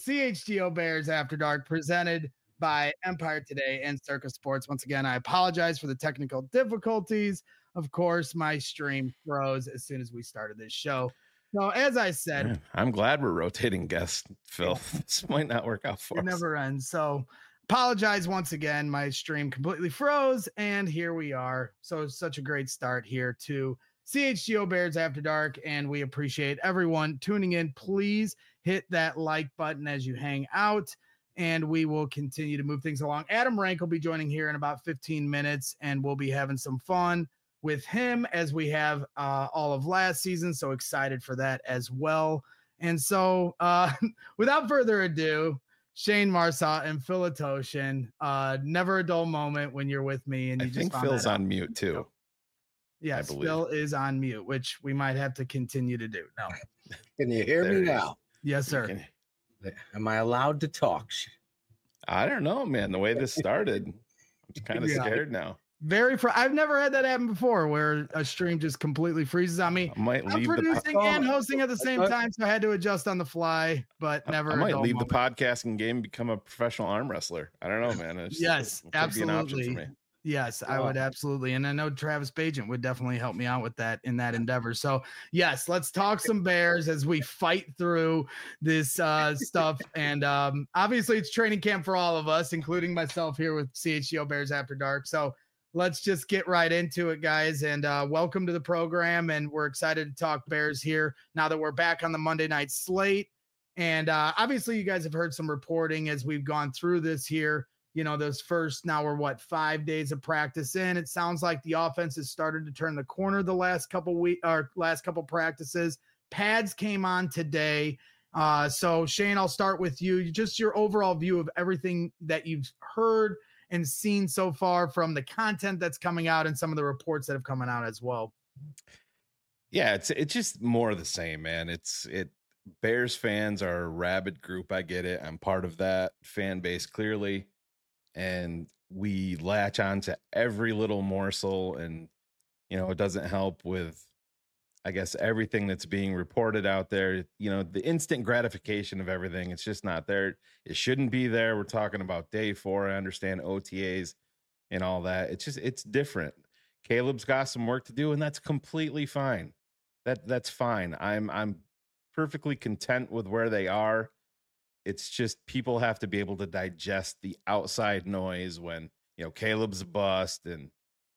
CHGO Bears After Dark, presented by Empire Today and Circus Sports. Once again, I apologize for the technical difficulties. Of course, my stream froze as soon as we started this show. So, as I said, I'm glad we're rotating guests, Phil. Yeah. This might not work out for us. It never ends. So, apologize once again. My stream completely froze, and here we are. So, it's such a great start here to CHGO Bears After Dark, and we appreciate everyone tuning in. Please hit that like button as you hang out, and we will continue to move things along. Adam Rank will be joining here in about 15 minutes, and we'll be having some fun with him as we have all of last season. So excited for that as well. And so without further ado, Shane Marsaw and Phil Atoshin, never a dull moment when you're with me. And you I think Phil's on mute too. Yes, Phil is on mute, which we might have to continue to do. No. Can you hear me now? Yes, sir. Am I allowed to talk? I don't know, man. The way this started, I'm kind of scared now. I've never had that happen before where a stream just completely freezes on me. I'm producing and hosting at the same time, so I had to adjust on the fly, but never. I might leave the podcasting game and become a professional arm wrestler. I don't know, man. Yes, absolutely. Be an option for me. Yes, I would absolutely. And I know Travis Bagent would definitely help me out with that in that endeavor. So yes, let's talk some Bears as we fight through this stuff. And obviously it's training camp for all of us, including myself here with CHGO Bears After Dark. So let's just get right into it, guys. And welcome to the program. And we're excited to talk Bears here now that we're back on the Monday night slate. And obviously you guys have heard some reporting as we've gone through this here. You know, those first, now we're 5 days of practice in. It sounds like the offense has started to turn the corner the last couple weeks or last couple practices. Pads came on today. So Shane, I'll start with you. Just your overall view of everything that you've heard and seen so far from the content that's coming out and some of the reports that have come out as well. Yeah, it's just more of the same, man. Bears fans are a rabid group. I get it. I'm part of that fan base clearly. And we latch on to every little morsel, and, you know, it doesn't help with, I guess, everything that's being reported out there. You know, the instant gratification of everything, it's just not there. It shouldn't be there. We're talking about day 4. I understand OTAs and all that. It's different. Caleb's got some work to do, and that's completely fine. That's fine. I'm perfectly content with where they are. It's just people have to be able to digest the outside noise when, you know, Caleb's a bust and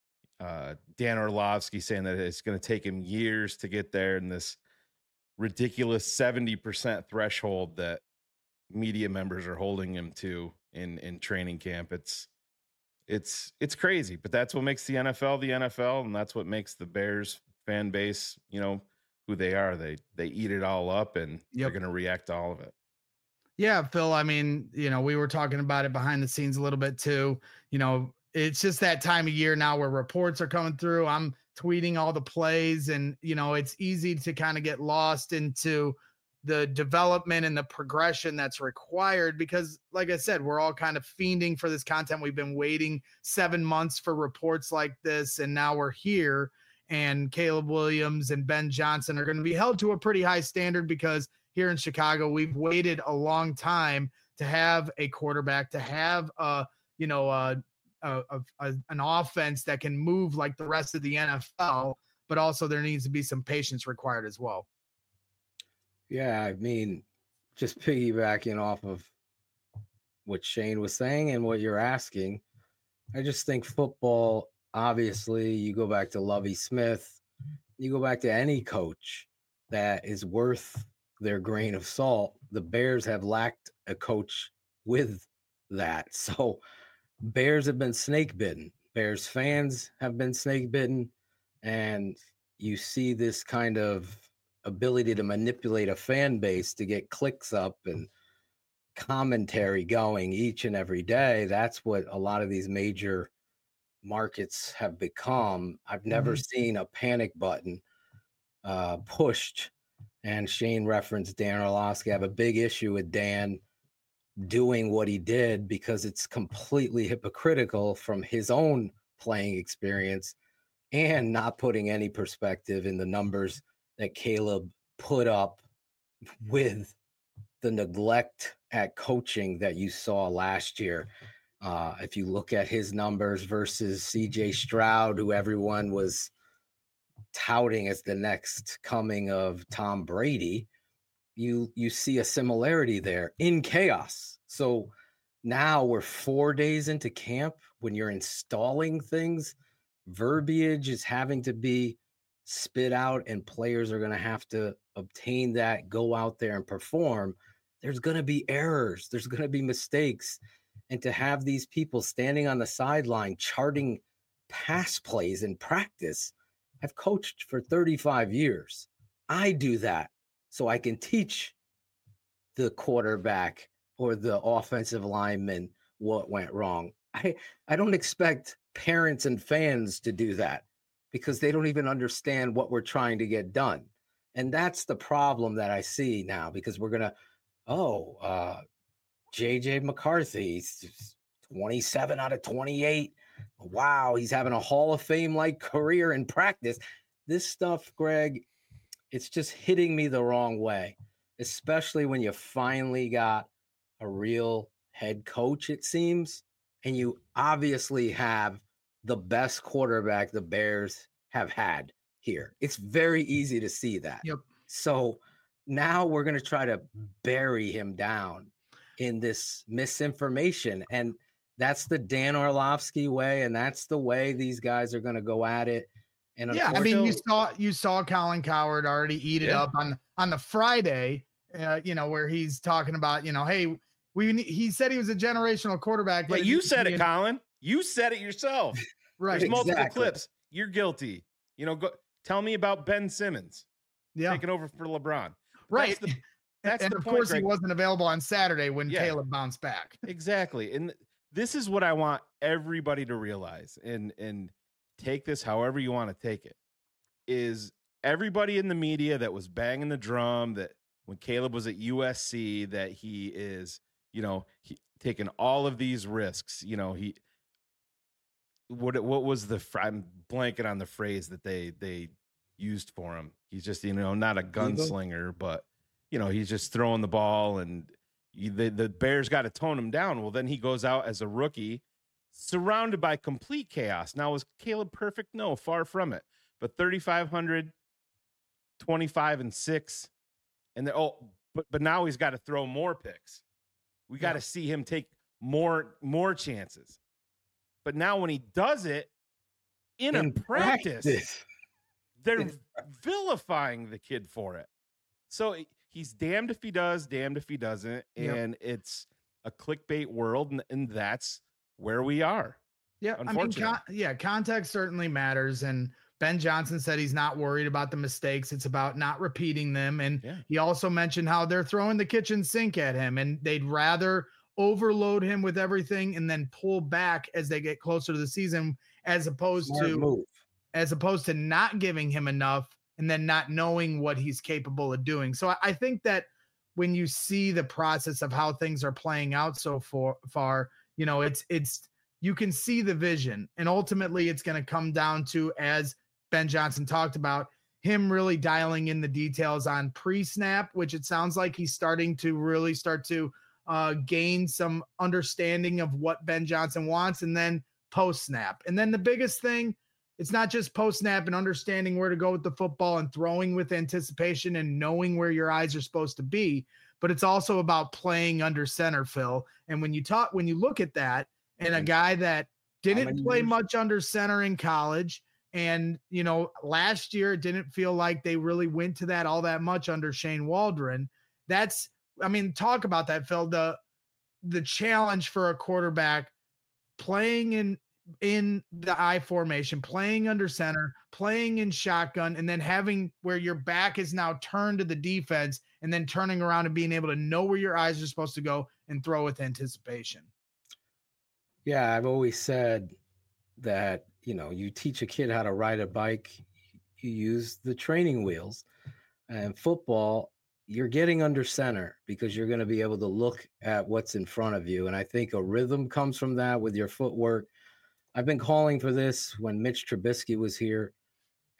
Dan Orlovsky saying that it's going to take him years to get there, and this ridiculous 70% threshold that media members are holding him to in training camp. It's crazy, but that's what makes the NFL, and that's what makes the Bears fan base, you know, who they are. They eat it all up, and they're going to react to all of it. Yeah, Phil, I mean, you know, we were talking about it behind the scenes a little bit too. You know, it's just that time of year now where reports are coming through. I'm tweeting all the plays, and, you know, it's easy to kind of get lost into the development and the progression that's required because, like I said, we're all kind of fiending for this content. We've been waiting 7 months for reports like this, and now we're here. And Caleb Williams and Ben Johnson are going to be held to a pretty high standard because here in Chicago, we've waited a long time to have a quarterback, to have an offense that can move like the rest of the NFL, but also there needs to be some patience required as well. Yeah, I mean, just piggybacking off of what Shane was saying and what you're asking, I just think football, obviously, you go back to Lovie Smith, you go back to any coach that is worth their grain of salt. The Bears have lacked a coach with that. So Bears have been snake bitten. Bears fans have been snake bitten. And you see this kind of ability to manipulate a fan base to get clicks up and commentary going each and every day. That's what a lot of these major markets have become. I've never seen a panic button pushed. And Shane referenced Dan Orlovsky. I have a big issue with Dan doing what he did because it's completely hypocritical from his own playing experience and not putting any perspective in the numbers that Caleb put up with the neglect at coaching that you saw last year. If you look at his numbers versus CJ Stroud, who everyone was touting as the next coming of Tom Brady, you see a similarity there in chaos. So now we're 4 days into camp. When you're installing things, verbiage is having to be spit out and players are going to have to obtain that, go out there and perform. There's going to be errors. There's going to be mistakes. And to have these people standing on the sideline charting pass plays in practice, I've coached for 35 years. I do that so I can teach the quarterback or the offensive lineman what went wrong. I don't expect parents and fans to do that because they don't even understand what we're trying to get done. And that's the problem that I see now, because we're going to, JJ McCarthy, 27 out of 28. Wow, he's having a Hall of Fame-like career in practice. This stuff, Greg, it's just hitting me the wrong way, especially when you finally got a real head coach, it seems, and you obviously have the best quarterback the Bears have had here. It's very easy to see that. Yep. So now we're going to try to bury him down in this misinformation. And that's the Dan Orlovsky way. And that's the way these guys are going to go at it. And yeah, I mean, you saw Colin Cowherd already eat it up on the Friday, where he's talking about, hey, he said he was a generational quarterback. But you said it, Colin. You said it yourself. Right. There's multiple clips. You're guilty. Go tell me about Ben Simmons. Yeah. Taking over for LeBron. Right. That's and the of point, course, Greg. He wasn't available on Saturday when Caleb bounced back. Exactly. And this is what I want everybody to realize, and take this however you want to take it, is everybody in the media that was banging the drum that when Caleb was at USC, that he is, he taking all of these risks, what was I'm blanking on the phrase that they used for him. He's just, not a gunslinger, but he's just throwing the ball, and the Bears got to tone him down. Well, then he goes out as a rookie, surrounded by complete chaos. Now, was Caleb perfect? No, far from it. But 3,500, 25-6, and but now he's got to throw more picks. We got to see him take more chances. But now when he does it in a practice, they're vilifying the kid for it. So he's damned if he does, damned if he doesn't. And it's a clickbait world, and that's where we are. Yeah, context certainly matters. And Ben Johnson said he's not worried about the mistakes. It's about not repeating them. And he also mentioned how they're throwing the kitchen sink at him, and they'd rather overload him with everything and then pull back as they get closer to the season, as opposed to not giving him enough and then not knowing what he's capable of doing. So I think that when you see the process of how things are playing out so far, it's you can see the vision, and ultimately it's going to come down to, as Ben Johnson talked about, him really dialing in the details on pre-snap, which it sounds like he's starting to gain some understanding of what Ben Johnson wants, and then post-snap. And then the biggest thing, it's not just post-snap and understanding where to go with the football and throwing with anticipation and knowing where your eyes are supposed to be, but it's also about playing under center, Phil. And when you look at that, and a guy that didn't play much under center in college, and, last year it didn't feel like they really went to that all that much under Shane Waldron. Talk about that, Phil. The challenge for a quarterback playing in the I formation, playing under center, playing in shotgun, and then having where your back is now turned to the defense, and then turning around and being able to know where your eyes are supposed to go and throw with anticipation. Yeah, I've always said that, you teach a kid how to ride a bike, you use the training wheels. And football, you're getting under center because you're going to be able to look at what's in front of you. And I think a rhythm comes from that with your footwork. I've been calling for this when Mitch Trubisky was here,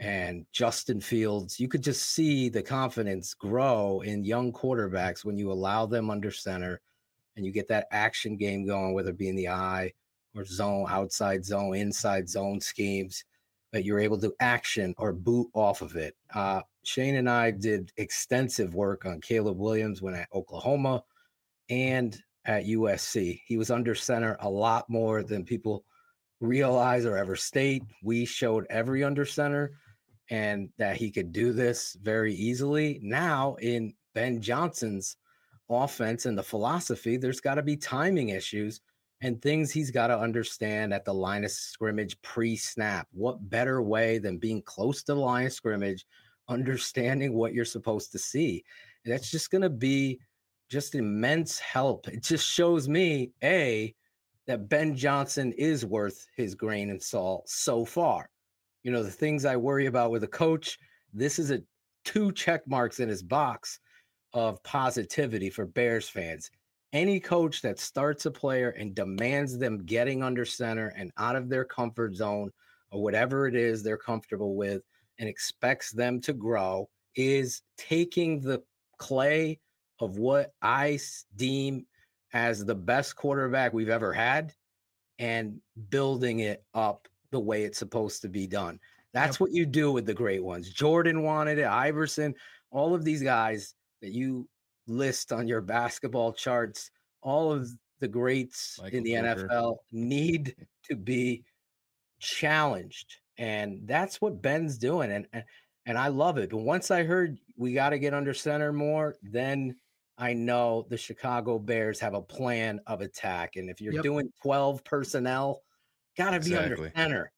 and Justin Fields. You could just see the confidence grow in young quarterbacks when you allow them under center and you get that action game going, whether it be in the eye or zone, outside zone, inside zone schemes, that you're able to action or boot off of it. Shane and I did extensive work on Caleb Williams when at Oklahoma and at USC. He was under center a lot more than people realize or ever state. We showed every under center and that he could do this very easily. Now in Ben Johnson's offense and the philosophy, there's got to be timing issues and things he's got to understand at the line of scrimmage pre-snap. What better way than being close to the line of scrimmage, understanding what you're supposed to see? And that's just going to be just immense help. It just shows me, that Ben Johnson is worth his grain and salt so far. You know, the things I worry about with a coach, this is 2 check marks in his box of positivity for Bears fans. Any coach that starts a player and demands them getting under center and out of their comfort zone or whatever it is they're comfortable with and expects them to grow is taking the clay of what I deem as the best quarterback we've ever had and building it up the way it's supposed to be done. That's what you do with the great ones. Jordan wanted it, Iverson, all of these guys that you list on your basketball charts, all of the greats in the NFL need to be challenged. And that's what Ben's doing. And I love it. But once I heard we got to get under center more, then I know the Chicago Bears have a plan of attack. And if you're doing 12 personnel, got to be under center.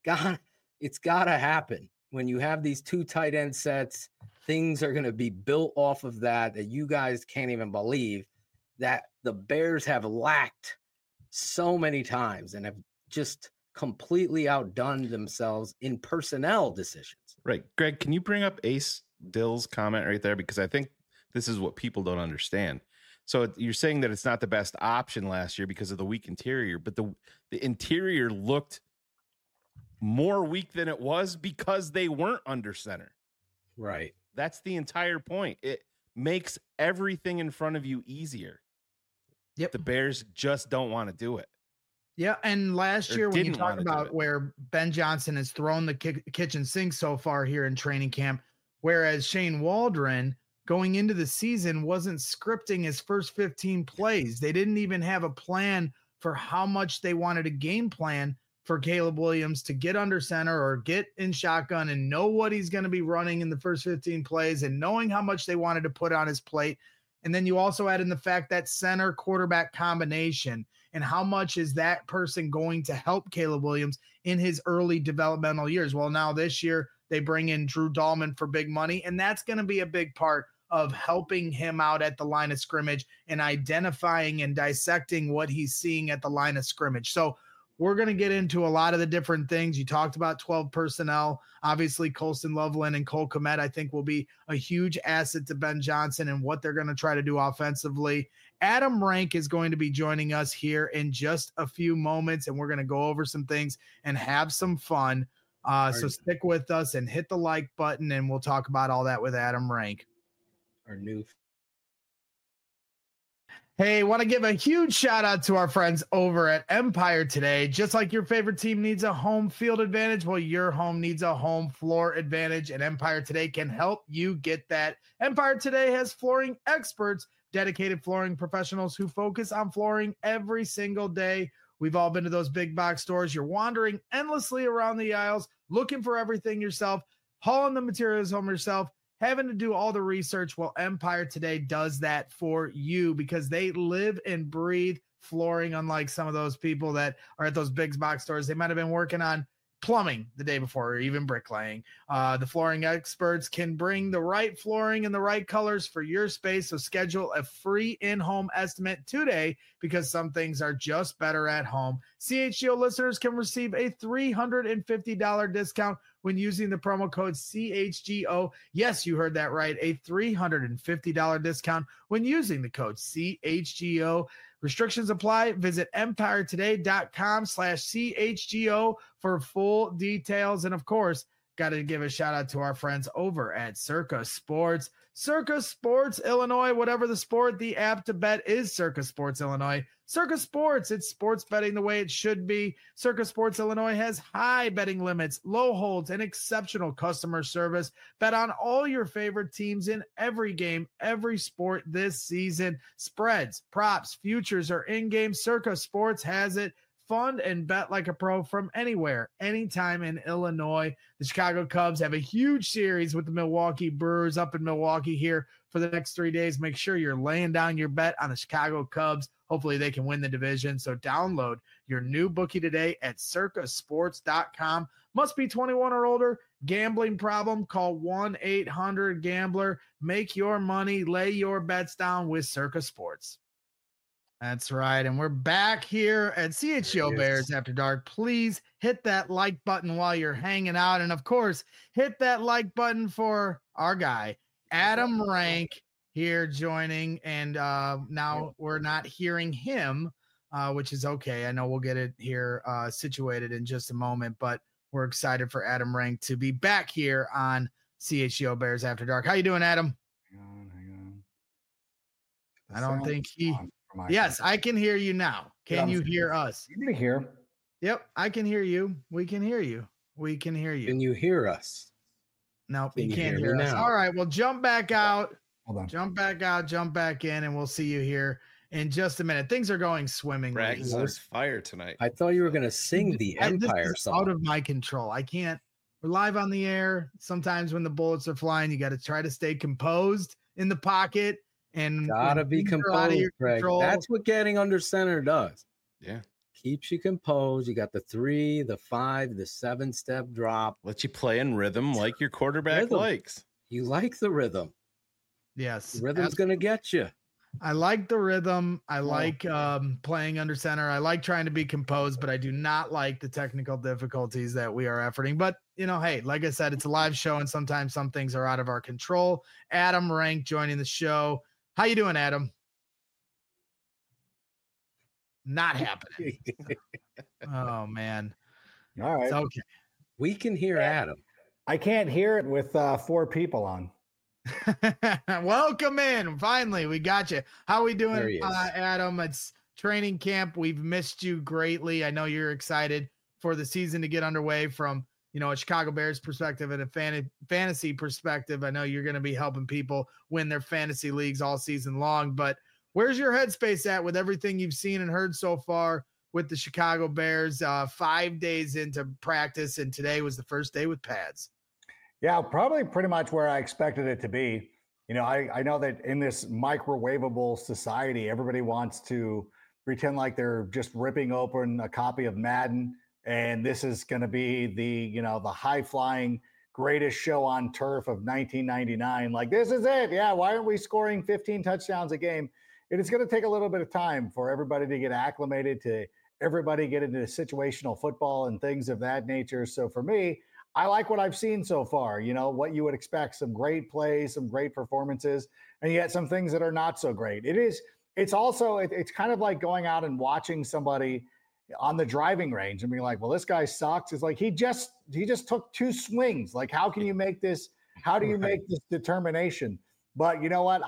It's got to happen. When you have these 2 tight end sets, things are going to be built off of that you guys can't even believe that the Bears have lacked so many times and have just completely outdone themselves in personnel decisions. Right. Greg, can you bring up Ace Dill's comment right there? Because I think this is what people don't understand. So you're saying that it's not the best option last year because of the weak interior, but the interior looked more weak than it was because they weren't under center. Right. That's the entire point. It makes everything in front of you easier. Yep. The Bears just don't want to do it. Yeah, and last year when you talk about where Ben Johnson has thrown the kitchen sink so far here in training camp, whereas Shane Waldron going into the season wasn't scripting his first 15 plays. They didn't even have a plan for how much they wanted a game plan for Caleb Williams to get under center or get in shotgun and know what he's going to be running in the first 15 plays and knowing how much they wanted to put on his plate. And then you also add in the fact that center quarterback combination and how much is that person going to help Caleb Williams in his early developmental years. Well, now this year they bring in Drew Dahlman for big money, and that's going to be a big part of helping him out at the line of scrimmage and identifying and dissecting what he's seeing at the line of scrimmage. So we're going to get into a lot of the different things. You talked about 12 personnel. Obviously, Colston Loveland and Cole Kmet, I think, will be a huge asset to Ben Johnson and what they're going to try to do offensively. Adam Rank is going to be joining us here in just a few moments, and we're going to go over some things and have some fun. So stick with us and hit the like button, and we'll talk about all that with Adam Rank. Hey, want to give a huge shout out to our friends over at Empire Today. Just like your favorite team needs a home field advantage, well, your home needs a home floor advantage, and Empire Today can help you get that. Empire Today has flooring experts, dedicated flooring professionals who focus on flooring every single day. We've all been to those big box stores. You're wandering endlessly around the aisles, looking for everything yourself, hauling the materials home yourself, having to do all the research. Well, Empire Today does that for you because they live and breathe flooring, unlike some of those people that are at those big box stores. They might have been working on plumbing the day before or even bricklaying. The flooring experts can bring the right flooring and the right colors for your space. So schedule a free in-home estimate today because some things are just better at home. CHGO listeners can receive a $350 discount when using the promo code CHGO. Yes, you heard that right. A $350 discount when using the code CHGO. Restrictions apply. Visit empiretoday.com/CHGO for full details. And of course, got to give a shout out to our friends over at Circa Sports. Circa Sports Illinois, whatever the sport, the app to bet is Circa Sports Illinois. Circa Sports, it's sports betting the way it should be. Circa Sports Illinois has high betting limits, low holds, and exceptional customer service. Bet on all your favorite teams in every game, every sport this season. Spreads, props, futures, or in-game, Circa Sports has it. Fund and bet like a pro from anywhere, anytime in Illinois. The Chicago Cubs have a huge series with the Milwaukee Brewers up in Milwaukee here for the next 3 days. Make sure you're laying down your bet on the Chicago Cubs. Hopefully they can win the division. So download your new bookie today at circasports.com. Must be 21 or older. Gambling problem? Call 1-800-GAMBLER. Make your money. Lay your bets down with Circa Sports. That's right. And we're back here at CHGO Bears After Dark. Please hit that like button while you're hanging out. And of course, hit that like button for our guy, Adam Rank, here joining. And now we're not hearing him, which is okay. I know we'll get it here situated in just a moment, but we're excited for Adam Rank to be back here on CHGO Bears After Dark. How you doing, Adam? Hang on. I don't think he... Yes, I can hear you now. Can you hear us? You can hear. Yep, I can hear you. We can hear you. We can hear you. Can you hear us? No, you can't hear us. Now? All right, well, jump back out. Hold on. Jump back out, jump back in, and we'll see you here in just a minute. Things are going swimmingly. Bragg's on fire tonight. I thought you were going to sing the Empire song. Out of my control. I can't. We're live on the air. Sometimes when the bullets are flying, you got to try to stay composed in the pocket. And gotta be composed, Greg. That's what getting under center does. Yeah. Keeps you composed. You got the 3, the 5, the 7-step drop. Let you play in rhythm like your quarterback likes. You like the rhythm. Yes. The rhythm's going to get you. I like the rhythm. I like playing under center. I like trying to be composed, but I do not like the technical difficulties that we are efforting. But, hey, like I said, it's a live show, and sometimes some things are out of our control. Adam Rank joining the show. How you doing, Adam? Not happening. Oh, man. All right. It's okay. We can hear Adam. I can't hear it with 4 people on. Welcome in. Finally, we got you. How we doing, Adam? It's training camp. We've missed you greatly. I know you're excited for the season to get underway from a Chicago Bears perspective and a fantasy perspective. I know you're going to be helping people win their fantasy leagues all season long, but where's your headspace at with everything you've seen and heard so far with the Chicago Bears? 5 days into practice, and today was the first day with pads. Yeah, probably pretty much where I expected it to be. I know that in this microwavable society, everybody wants to pretend like they're just ripping open a copy of Madden. And this is going to be the high flying greatest show on turf of 1999. Like, this is it. Yeah. Why aren't we scoring 15 touchdowns a game? It is going to take a little bit of time for everybody to get acclimated, to everybody get into situational football and things of that nature. So for me, I like what I've seen so far. What you would expect: some great plays, some great performances, and yet some things that are not so great. It's kind of like going out and watching somebody on the driving range and being like, well, this guy sucks. It's like, he just took 2 swings. Like, how can you make this? How do you make this determination? But you know what?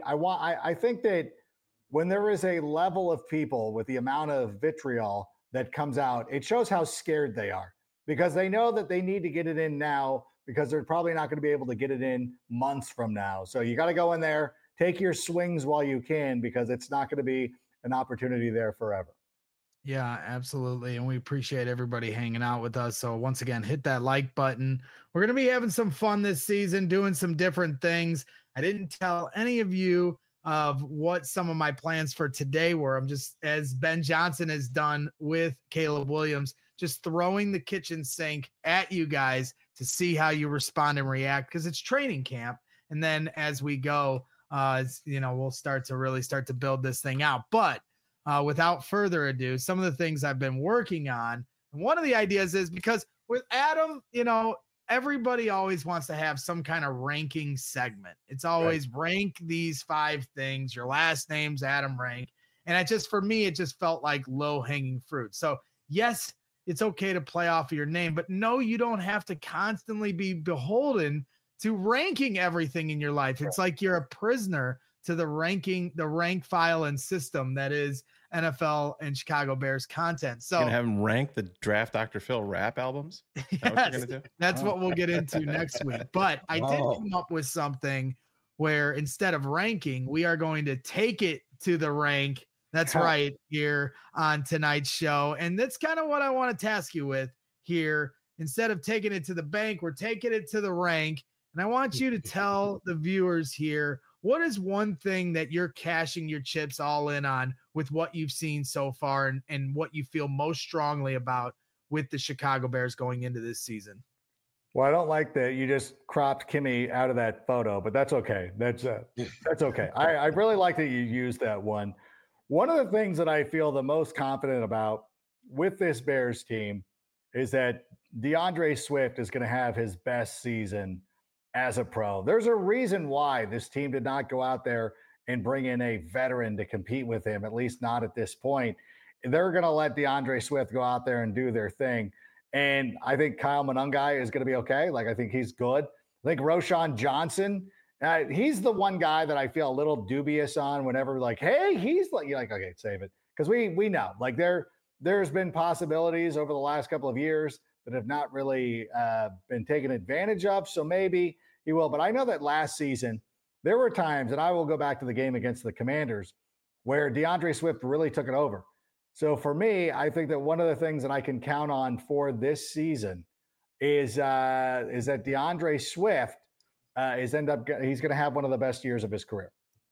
I think that when there is a level of people with the amount of vitriol that comes out, it shows how scared they are, because they know that they need to get it in now, because they're probably not going to be able to get it in months from now. So you got to go in there, take your swings while you can, because it's not going to be an opportunity there forever. Yeah, absolutely. And we appreciate everybody hanging out with us. So once again, hit that like button. We're going to be having some fun this season, doing some different things. I didn't tell any of you of what some of my plans for today were. I'm just, as Ben Johnson has done with Caleb Williams, just throwing the kitchen sink at you guys to see how you respond and react, because it's training camp. And then as we go, we'll start to build this thing out. But without further ado, some of the things I've been working on. And one of the ideas is, because with Adam, everybody always wants to have some kind of ranking segment. It's always rank these 5 things. Your last name's Adam Rank. And for me, it just felt like low hanging fruit. So yes, it's okay to play off of your name. But no, you don't have to constantly be beholden to ranking everything in your life. It's like you're a prisoner to the rank file and system that is NFL and Chicago Bears content. So you're gonna have them rank the Draft Dr. Phil rap albums. Yes, that's what we'll get into next week. But I did come up with something where instead of ranking, we are going to take it to the rank. That's right, here on tonight's show. And that's kind of what I want to task you with here. Instead of taking it to the bank, we're taking it to the rank. And I want you to tell the viewers here, what is one thing that you're cashing your chips all in on with what you've seen so far, and what you feel most strongly about with the Chicago Bears going into this season? Well, I don't like that you just cropped Kimmy out of that photo, but that's okay. That's okay. I really like that you used that one. One of the things that I feel the most confident about with this Bears team is that DeAndre Swift is going to have his best season as a pro. There's a reason why this team did not go out there and bring in a veteran to compete with him, at least not at this point. They're going to let DeAndre Swift go out there and do their thing. And I think Kyle Monangai is going to be okay. Like, I think he's good. I think Roschon Johnson, he's the one guy that I feel a little dubious on whenever, like, hey, he's like, you're like, okay, save it. Because we know, like, there's been possibilities over the last couple of years that have not really been taken advantage of. So maybe he will. But I know that last season, there were times, and I will go back to the game against the Commanders, where DeAndre Swift really took it over. So for me, I think that one of the things that I can count on for this season is that DeAndre Swift he's going to have one of the best years of his career.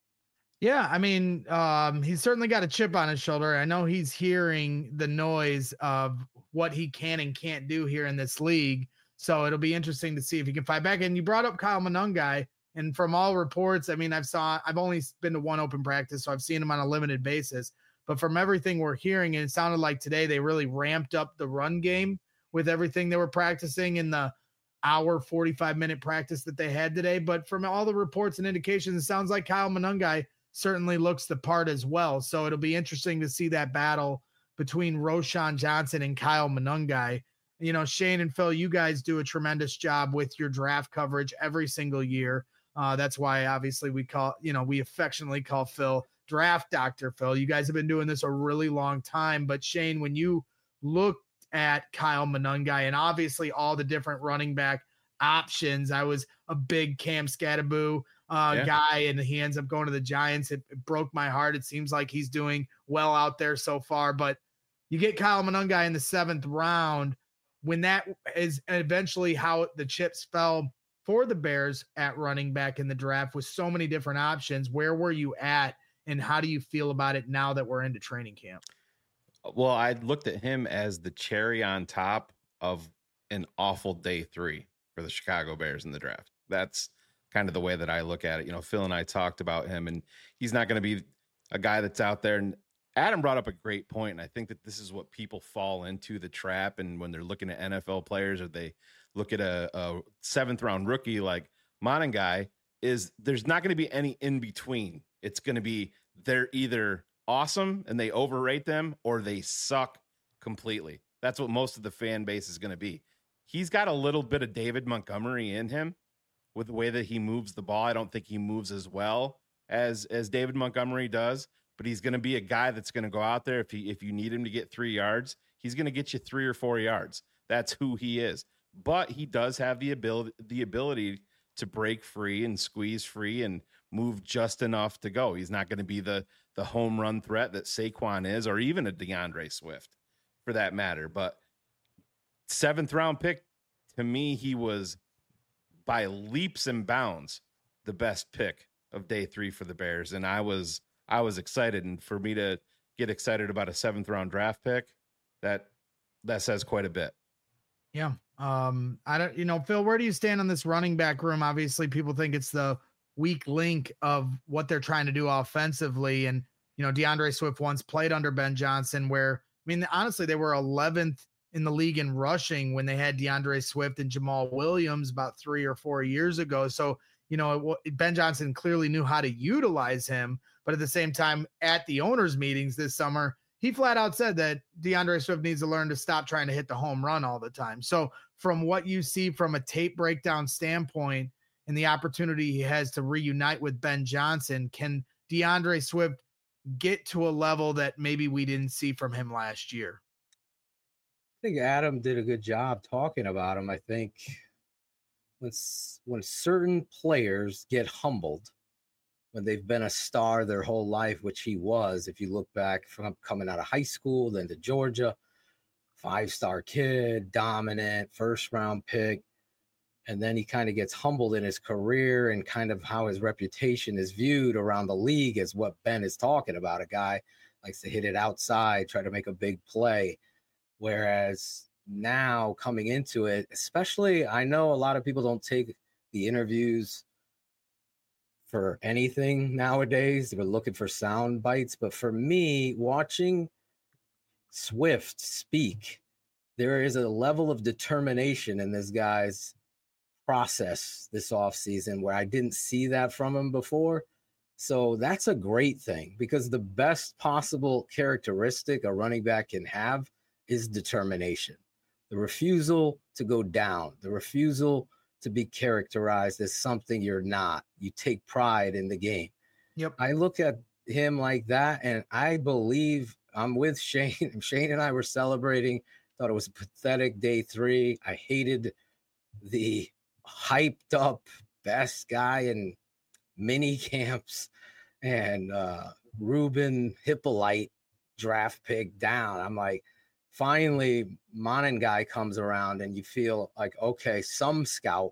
Yeah, I mean, he's certainly got a chip on his shoulder. I know he's hearing the noise of what he can and can't do here in this league. So it'll be interesting to see if he can fight back. And you brought up Kyle Monangai, and from all reports, I mean, I've only been to one open practice, so I've seen him on a limited basis. But from everything we're hearing, and it sounded like today they really ramped up the run game with everything they were practicing in the hour, 45-minute practice that they had today. But from all the reports and indications, it sounds like Kyle Monangai certainly looks the part as well. So it'll be interesting to see that battle between Roschon Johnson and Kyle Monangai. You know, Shane and Phil, you guys do a tremendous job with your draft coverage every single year. That's why obviously we affectionately call Phil Draft Dr. Phil. You guys have been doing this a really long time. But Shane, when you looked at Kyle Monangai and obviously all the different running back options, I was a big Cam Skattebo guy, and he ends up going to the Giants. It broke my heart. It seems like he's doing well out there so far, but you get Kyle Monangai in the 7th round, when that is eventually how the chips fell for the Bears at running back in the draft with so many different options. Where were you at, and how do you feel about it now that we're into training camp? Well, I looked at him as the cherry on top of an awful day 3 for the Chicago Bears in the draft. That's kind of the way that I look at it. You know, Phil and I talked about him, and he's not going to be a guy that's out there. And Adam brought up a great point, and I think that this is what people fall into the trap. And when they're looking at NFL players, or they look at a 7th round rookie like Monangai, is there's not going to be any in between. It's going to be they're either awesome and they overrate them, or they suck completely. That's what most of the fan base is going to be. He's got a little bit of David Montgomery in him with the way that he moves the ball. I don't think he moves as well as David Montgomery does, but he's going to be a guy that's going to go out there. If you need him to get 3 yards, he's going to get you 3 or 4 yards. That's who he is. But he does have the ability to break free and squeeze free and move just enough to go. He's not going to be the home run threat that Saquon is, or even a DeAndre Swift for that matter. But 7th round pick, to me, he was by leaps and bounds the best pick of day 3 for the Bears. And I was excited. And for me to get excited about a 7th round draft pick, that says quite a bit. Yeah. Phil, where do you stand on this running back room? Obviously people think it's the weak link of what they're trying to do offensively. And, DeAndre Swift once played under Ben Johnson, where, honestly, they were 11th in the league in rushing when they had DeAndre Swift and Jamal Williams about 3 or 4 years ago. So, Ben Johnson clearly knew how to utilize him, but at the same time, at the owners' meetings this summer, he flat out said that DeAndre Swift needs to learn to stop trying to hit the home run all the time. So from what you see from a tape breakdown standpoint and the opportunity he has to reunite with Ben Johnson, can DeAndre Swift get to a level that maybe we didn't see from him last year? I think Adam did a good job talking about him. I think when certain players get humbled, when they've been a star their whole life, which he was, if you look back from coming out of high school, then to Georgia, 5-star kid, dominant, first-round pick, and then he kind of gets humbled in his career and kind of how his reputation is viewed around the league as what Ben is talking about. A guy likes to hit it outside, try to make a big play. Whereas now coming into it, especially, I know a lot of people don't take the interviews for anything nowadays. They're looking for sound bites. But for me, watching Swift speak, there is a level of determination in this guy's process this offseason where I didn't see that from him before. So that's a great thing, because the best possible characteristic a running back can have is determination. The refusal to go down, the refusal to be characterized as something you're not. You take pride in the game. Yep. I look at him like that, and I believe I'm with Shane. Shane and I were celebrating. Thought it was a pathetic day 3. I hated the hyped up best guy in mini camps and Ruben Hippolyte draft pick down. I'm like, finally, Monangai comes around and you feel like, okay, some scout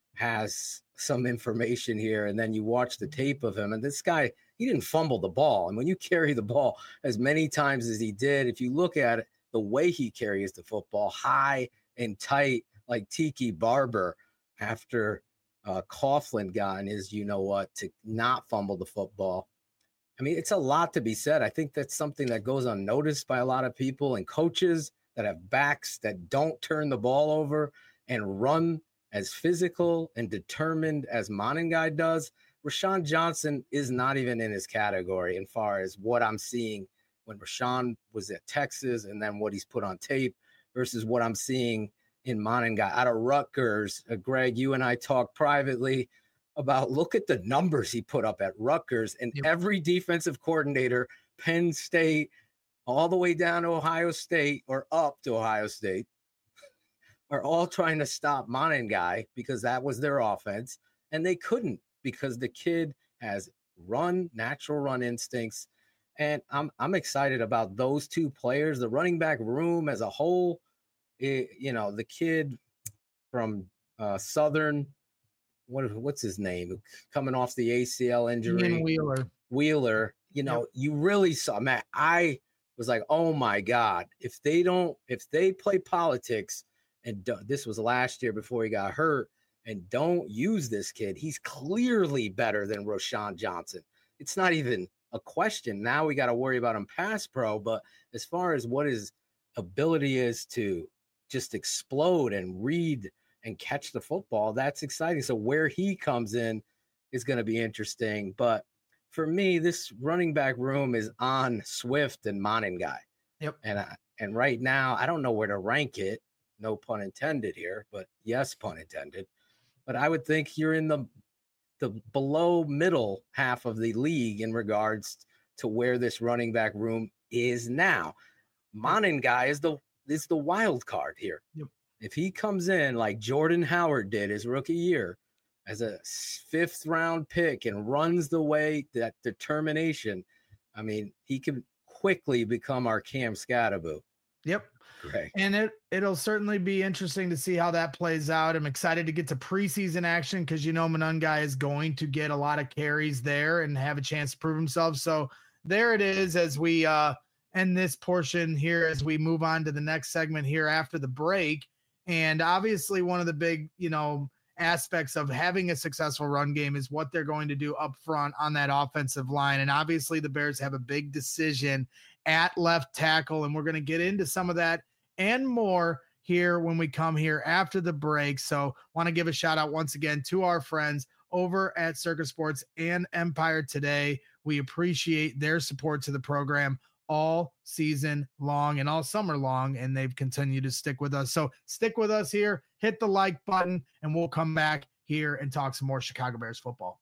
has some information here. And then you watch the tape of him, and this guy, he didn't fumble the ball. And when you carry the ball as many times as he did, if you look at it, the way he carries the football, high and tight, like Tiki Barber after Coughlin got in his, to not fumble the football. I mean, it's a lot to be said. I think that's something that goes unnoticed by a lot of people and coaches that have backs that don't turn the ball over and run as physical and determined as Monangai does. Rashawn Johnson is not even in his category as far as what I'm seeing when Rashawn was at Texas and then what he's put on tape versus what I'm seeing in Monangai out of Rutgers. Greg, you and I talked privately about, look at the numbers he put up at Rutgers, and every defensive coordinator, Penn State, all the way down to Ohio State or up to Ohio State, are all trying to stop Monangai because that was their offense. And they couldn't, because the kid has natural run instincts. And I'm excited about those two players, the running back room as a whole. The kid from Southern, what's his name, coming off the ACL injury, Ian Wheeler, you really saw, man, I was like, oh my God, if they play politics, and this was last year before he got hurt, and don't use this kid, he's clearly better than Rashawn Johnson. It's not even a question. Now we got to worry about him pass pro, but as far as what his ability is to just explode and read and catch the football, that's exciting. So where he comes in is going to be interesting. But for me, this running back room is on Swift and Monangai. Yep. And right now, I don't know where to rank it. No pun intended here, but yes, pun intended. But I would think you're in the below middle half of the league in regards to where this running back room is now. Monangai is the wild card here. Yep. If he comes in like Jordan Howard did his rookie year as a 5th round pick and runs the way, that determination, I mean, he could quickly become our Cam Scatterbo. Yep. Great. And it'll certainly be interesting to see how that plays out. I'm excited to get to preseason action because Monangai is going to get a lot of carries there and have a chance to prove himself. So there it is as we end this portion here, as we move on to the next segment here after the break. And obviously one of the big, aspects of having a successful run game is what they're going to do up front on that offensive line. And obviously the Bears have a big decision at left tackle, and we're going to get into some of that and more here when we come here after the break. So want to give a shout out once again to our friends over at Circus Sports and Empire Today. We appreciate their support to the program all season long and all summer long, and they've continued to stick with us. So stick with us here, hit the like button, and we'll come back here and talk some more Chicago Bears football.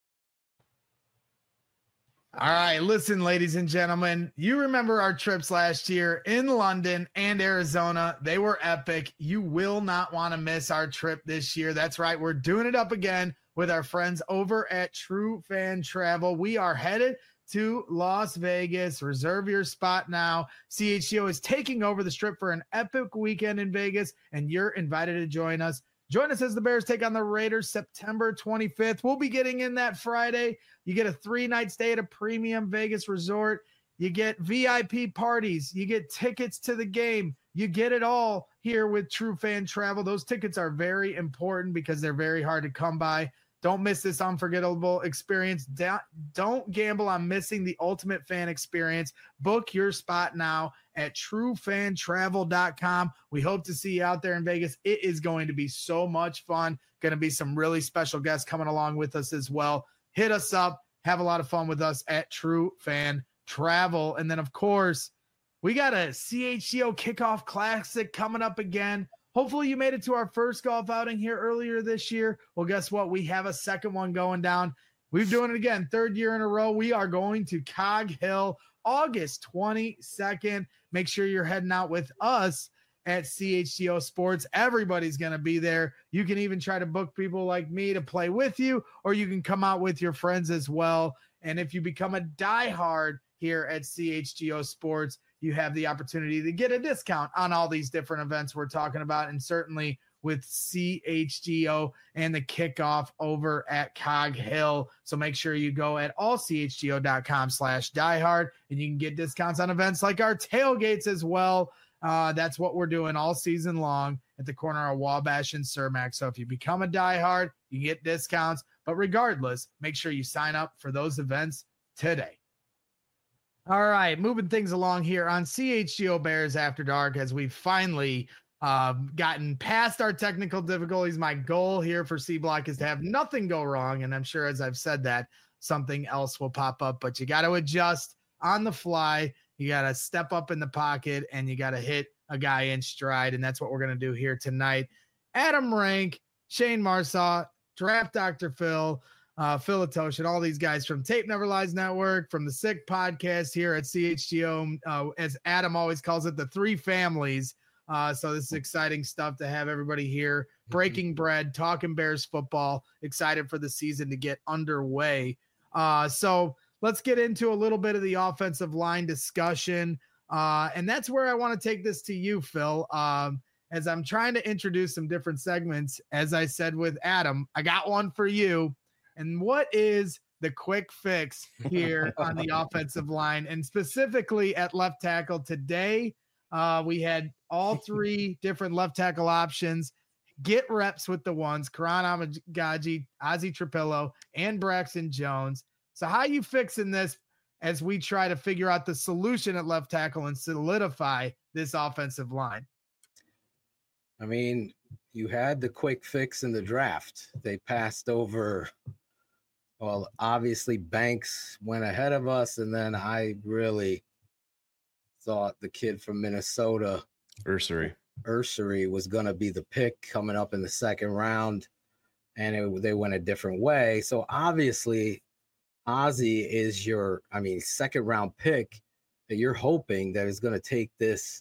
All right, listen, ladies and gentlemen, you remember our trips last year in London and Arizona. They were epic. You will not want to miss our trip this year. That's right. We're doing it up again with our friends over at True Fan Travel. We are headed to Las Vegas. Reserve your spot now. CHGO is taking over the Strip for an epic weekend in Vegas, and you're invited to join us. Join us as the Bears take on the Raiders September 25th. We'll be getting in that Friday. You get a 3-night stay at a premium Vegas resort. You get VIP parties. You get tickets to the game. You get it all here with True Fan Travel. Those tickets are very important because they're very hard to come by. Don't miss this unforgettable experience. Don't gamble on missing the ultimate fan experience. Book your spot now at truefantravel.com. We hope to see you out there in Vegas. It is going to be so much fun. Going to be some really special guests coming along with us as well. Hit us up. Have a lot of fun with us at True Fan Travel. And then, of course, we got a CHGO Kickoff Classic coming up again. Hopefully you made it to our first golf outing here earlier this year. Well, guess what? We have a second one going down. We're doing it again, third year in a row. We are going to Cog Hill, August 22nd. Make sure you're heading out with us at CHGO Sports. Everybody's going to be there. You can even try to book people like me to play with you, or you can come out with your friends as well. And if you become a diehard here at CHGO Sports, you have the opportunity to get a discount on all these different events we're talking about, and certainly with CHGO and the kickoff over at Cog Hill. So make sure you go at allchgo.com/diehard, and you can get discounts on events like our tailgates as well. That's what we're doing all season long at the corner of Wabash and Cermak. So if you become a diehard, you get discounts. But regardless, make sure you sign up for those events today. All right, moving things along here on CHGO Bears After Dark as we've finally gotten past our technical difficulties. My goal here for C Block is to have nothing go wrong, and I'm sure as I've said that, something else will pop up, but you got to adjust on the fly. You got to step up in the pocket, and you got to hit a guy in stride, and that's what we're going to do here tonight. Adam Rank, Shane Marsaw, Draft Dr. Phil, Phil Atosh, and all these guys from Tape Never Lies Network, from the Sick Podcast here at CHGO, as Adam always calls it, the three families. So this is exciting stuff to have everybody here, breaking bread, talking Bears football, excited for the season to get underway. So let's get into a little bit of the offensive line discussion. And that's where I want to take this to you, Phil. As I'm trying to introduce some different segments, as I said with Adam, I got one for you. And what is the quick fix here on the offensive line, and specifically at left tackle today? We had all three different left tackle options. Get reps with the ones, Karan Amagaji, Ozzie Trapillo, and Braxton Jones. So how are you fixing this as we try to figure out the solution at left tackle and solidify this offensive line? I mean, you had the quick fix in the draft. They passed over, well, obviously Banks went ahead of us, and then I really thought the kid from Minnesota, Ursery was going to be the pick coming up in the second round, and they went a different way. So obviously Ozzie is your, second round pick that you're hoping that is going to take this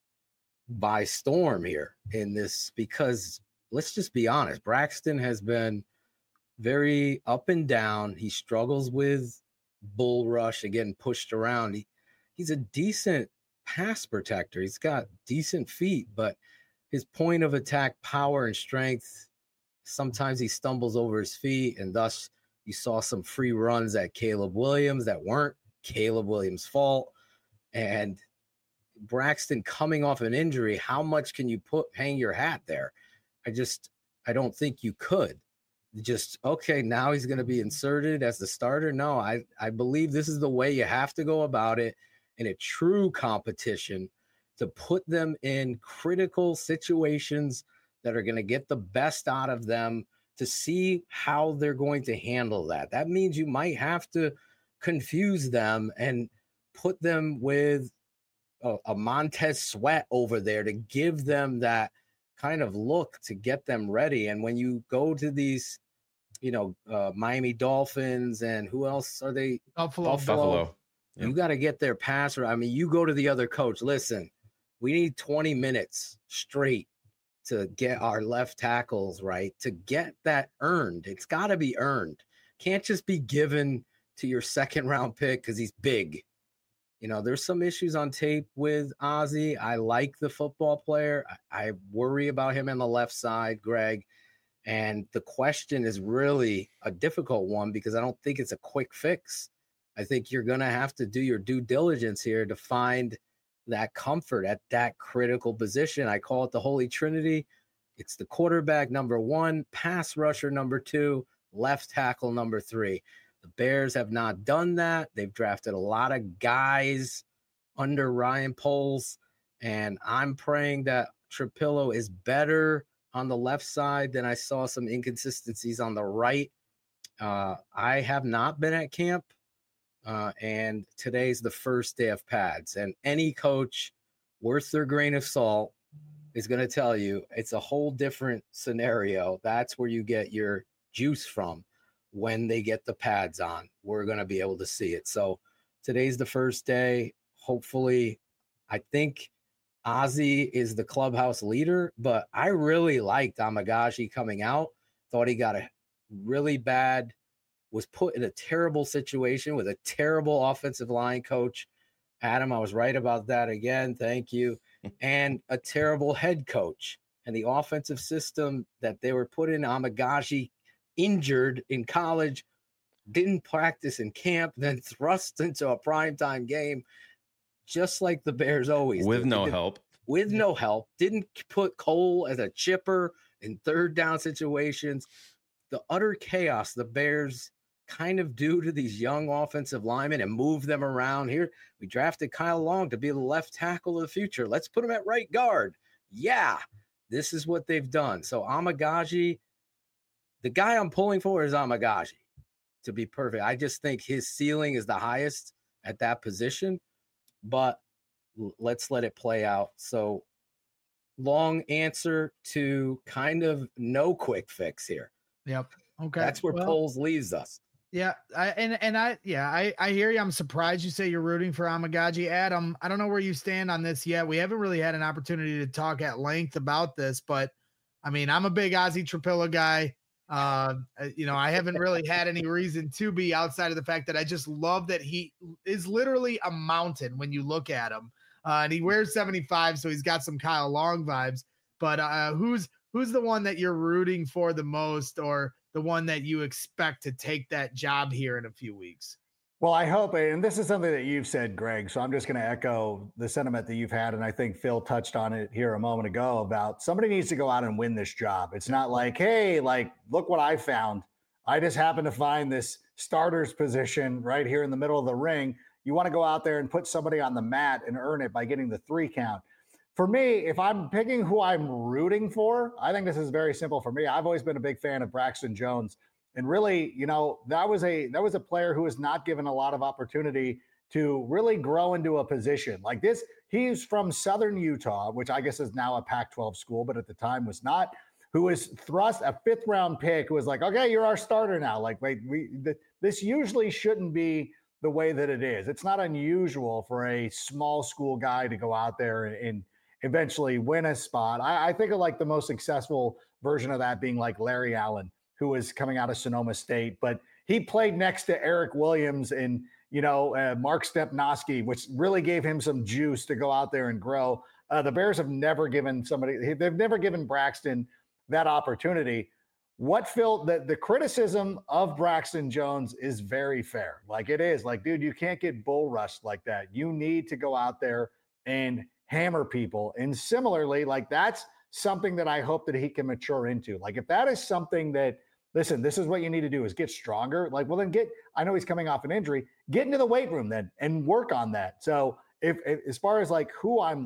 by storm here in this, because let's just be honest, Braxton has been very up and down. He struggles with bull rush and getting pushed around. He's a decent pass protector. He's got decent feet, but his point of attack power and strength, sometimes he stumbles over his feet, and thus you saw some free runs at Caleb Williams that weren't Caleb Williams' fault. And Braxton coming off an injury, how much can you hang your hat there? I don't think you could. Just, okay, now he's going to be inserted as the starter. No, I believe this is the way you have to go about it in a true competition, to put them in critical situations that are going to get the best out of them, to see how they're going to handle that. That means you might have to confuse them and put them with a Montez Sweat over there to give them that kind of look to get them ready. And when you go to these, Miami Dolphins and who else are they? Buffalo. Yep. You got to get their passer. I mean, you go to the other coach. Listen, we need 20 minutes straight to get our left tackles right, to get that earned. It's got to be earned. Can't just be given to your second round pick because he's big. There's some issues on tape with Ozzie. I like the football player. I worry about him on the left side, Greg. And the question is really a difficult one because I don't think it's a quick fix. I think you're going to have to do your due diligence here to find that comfort at that critical position. I call it the Holy Trinity. It's the quarterback, number 1, pass rusher, number 2, left tackle, number 3. The Bears have not done that. They've drafted a lot of guys under Ryan Poles, and I'm praying that Trapillo is better on the left side than I saw some inconsistencies on the right. I have not been at camp, and today's the first day of pads, and any coach worth their grain of salt is going to tell you it's a whole different scenario. That's where you get your juice from. When they get the pads on, we're going to be able to see it. So today's the first day. Hopefully, I think Ozzie is the clubhouse leader, but I really liked Amagashi coming out. Thought he got was put in a terrible situation with a terrible offensive line coach. Adam, I was right about that again. Thank you. And a terrible head coach. And the offensive system that they were put in, Amagashi, injured in college, didn't practice in camp, then thrust into a primetime game, just like the Bears always with do. No help. Didn't put Cole as a chipper in third down situations. The utter chaos the Bears kind of do to these young offensive linemen and move them around. Here, we drafted Kyle Long to be the left tackle of the future. Let's put him at right guard. Yeah, this is what they've done. So Amagashi, the guy I'm pulling for is Amagashi, to be perfect. I just think his ceiling is the highest at that position, but let's let it play out. So long answer to kind of no quick fix here. Yep. Okay. That's where Poles leaves us. Yeah. I hear you. I'm surprised you say you're rooting for Amagashi. Adam, I don't know where you stand on this yet. We haven't really had an opportunity to talk at length about this, but I mean, I'm a big Ozzie Trapillo guy. I haven't really had any reason to be outside of the fact that I just love that he is literally a mountain when you look at him. And he wears 75, so he's got some Kyle Long vibes. But who's the one that you're rooting for the most, or the one that you expect to take that job here in a few weeks? Well, I hope, and this is something that you've said, Greg, so I'm just going to echo the sentiment that you've had, and I think Phil touched on it here a moment ago about somebody needs to go out and win this job. It's not like, hey, look what I found. I just happened to find this starter's position right here in the middle of the ring. You want to go out there and put somebody on the mat and earn it by getting the 3 count. For me, if I'm picking who I'm rooting for, I think this is very simple for me. I've always been a big fan of Braxton Jones. And really, that was a player who was not given a lot of opportunity to really grow into a position like this. He's from Southern Utah, which I guess is now a Pac-12 school, but at the time was not, who was thrust a 5th round pick who was like, okay, you're our starter now. Like, wait, this usually shouldn't be the way that it is. It's not unusual for a small school guy to go out there and eventually win a spot. I think of like the most successful version of that being like Larry Allen, who was coming out of Sonoma State, but he played next to Eric Williams and, Mark Stepnoski, which really gave him some juice to go out there and grow. The Bears have never given they've never given Braxton that opportunity. The criticism of Braxton Jones is very fair. Like, it is like, dude, you can't get bull rushed like that. You need to go out there and hammer people. And similarly, like, that's something that I hope that he can mature into. Like, if that is something that, listen, this is what you need to do is get stronger. Like, well, then I know he's coming off an injury, get into the weight room then and work on that. So if as far as like who I'm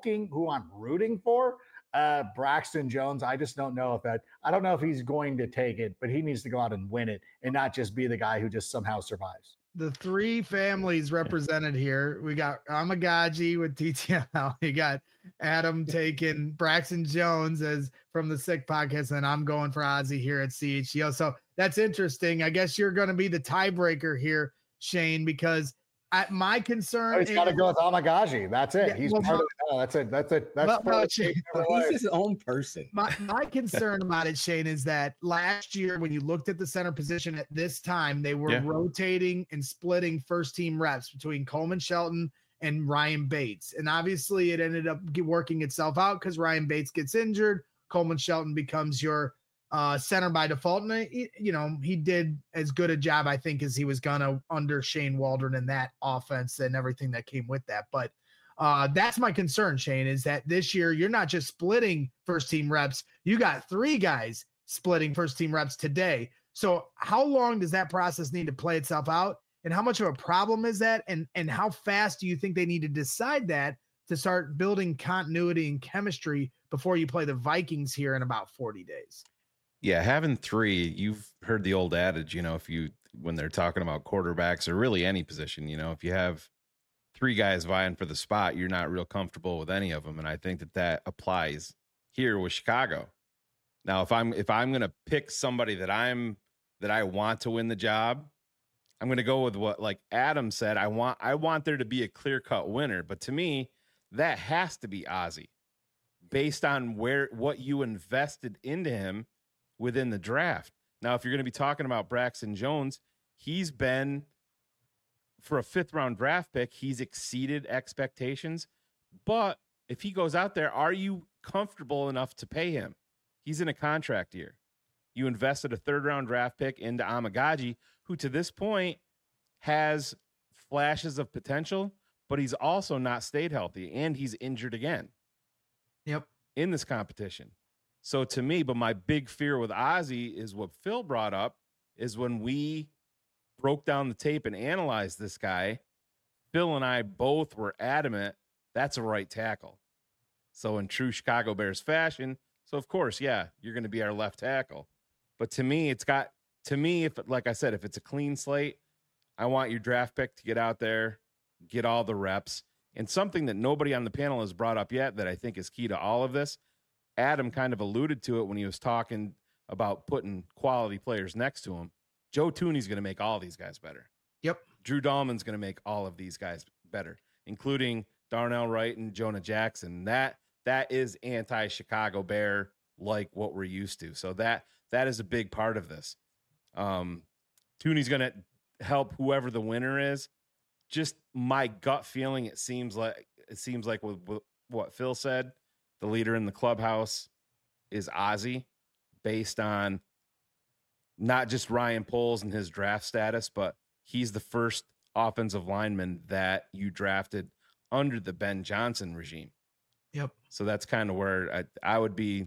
rooting for, Braxton Jones, I just don't know I don't know if he's going to take it, but he needs to go out and win it and not just be the guy who just somehow survives. the three families represented here. We got Amagaji with TTL. You got Adam taking Braxton Jones as from the Sick Podcast, and I'm going for Ozzie here at CHGO. So that's interesting. I guess you're going to be the tiebreaker here, Shane, because my concern he's got to go with Amagaji. That's it. He's part of that's it. That's it. That's he's his own person. My concern about it, Shane, is that last year when you looked at the center position at this time, they were rotating and splitting first team reps between Coleman Shelton and Ryan Bates. And obviously it ended up working itself out because Ryan Bates gets injured. Coleman Shelton becomes your center by default. And, he did as good a job, I think, as he was going to under Shane Waldron in that offense and everything that came with that. But that's my concern, Shane, is that this year you're not just splitting first team reps. You got three guys splitting first team reps today. So how long does that process need to play itself out? And how much of a problem is that? And how fast do you think they need to decide that to start building continuity and chemistry before you play the Vikings here in about 40 days? Yeah, having three, you've heard the old adage, when they're talking about quarterbacks or really any position, if you have three guys vying for the spot, you're not real comfortable with any of them. And I think that applies here with Chicago. Now, if I'm going to pick somebody that I want to win the job, I'm going to go with what, like Adam said, I want there to be a clear-cut winner. But to me, that has to be Ozzie based on what you invested into him within the draft. Now, if you're going to be talking about Braxton Jones, he's been, for a 5th round draft pick, he's exceeded expectations. But if he goes out there, are you comfortable enough to pay him? He's in a contract year. You invested a 3rd round draft pick into Amagaji, who to this point has flashes of potential, but he's also not stayed healthy and he's injured again. Yep. In this competition. So to me, but my big fear with Ozzie is what Phil brought up, is when we broke down the tape and analyzed this guy, Phil and I both were adamant that's a right tackle. So in true Chicago Bears fashion, so of course, yeah, you're going to be our left tackle. But to me, if like I said, if it's a clean slate, I want your draft pick to get out there, get all the reps. And something that nobody on the panel has brought up yet that I think is key to all of this, Adam kind of alluded to it when he was talking about putting quality players next to him. Joe Thuney's going to make all these guys better. Yep. Drew Dahlman's going to make all of these guys better, including Darnell Wright and Jonah Jackson. That is anti-Chicago Bear, like what we're used to. So that is a big part of this. Thuney's going to help whoever the winner is. Just my gut feeling, it seems like with what Phil said, the leader in the clubhouse is Ozzie, based on not just Ryan Poles and his draft status, but he's the first offensive lineman that you drafted under the Ben Johnson regime. Yep. So that's kind of where I would be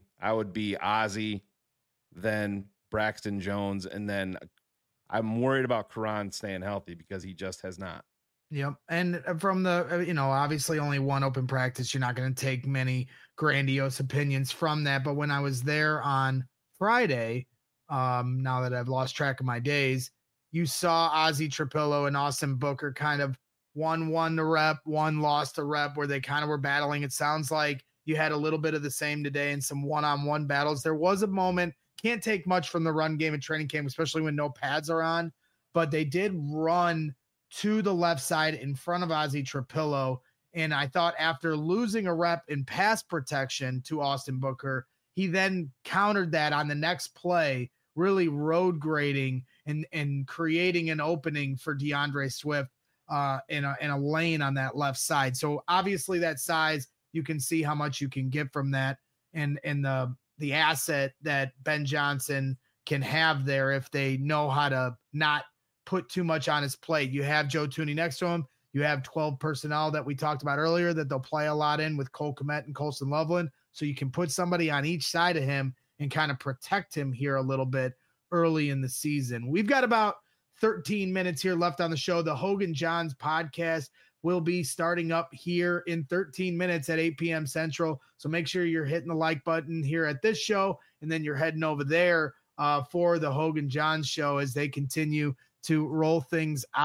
Ozzie, then Braxton Jones, and then I'm worried about Karan staying healthy because he just has not. Yep. And from the, obviously only one open practice, you're not going to take many grandiose opinions from that. But when I was there on Friday, now that I've lost track of my days, you saw Ozzie Trapillo and Austin Booker kind of one won the rep, one lost the rep, where they kind of were battling. It sounds like you had a little bit of the same today in some one-on-one battles. There was a moment, can't take much from the run game and training camp, especially when no pads are on, but they did run to the left side in front of Ozzie Trapillo. And I thought after losing a rep in pass protection to Austin Booker, he then countered that on the next play, really road grading and creating an opening for DeAndre Swift in a lane on that left side. So obviously that size, you can see how much you can get from that and the asset that Ben Johnson can have there if they know how to not put too much on his plate. You have Joe Thuney next to him. You have 12 personnel that we talked about earlier that they'll play a lot in with Cole Kmet and Colston Loveland. So you can put somebody on each side of him and kind of protect him here a little bit early in the season. We've got about 13 minutes here left on the show. The Hogan Johns podcast will be starting up here in 13 minutes at 8 p.m. Central. So make sure you're hitting the like button here at this show, and then you're heading over there for the Hogan Johns show as they continue to roll things out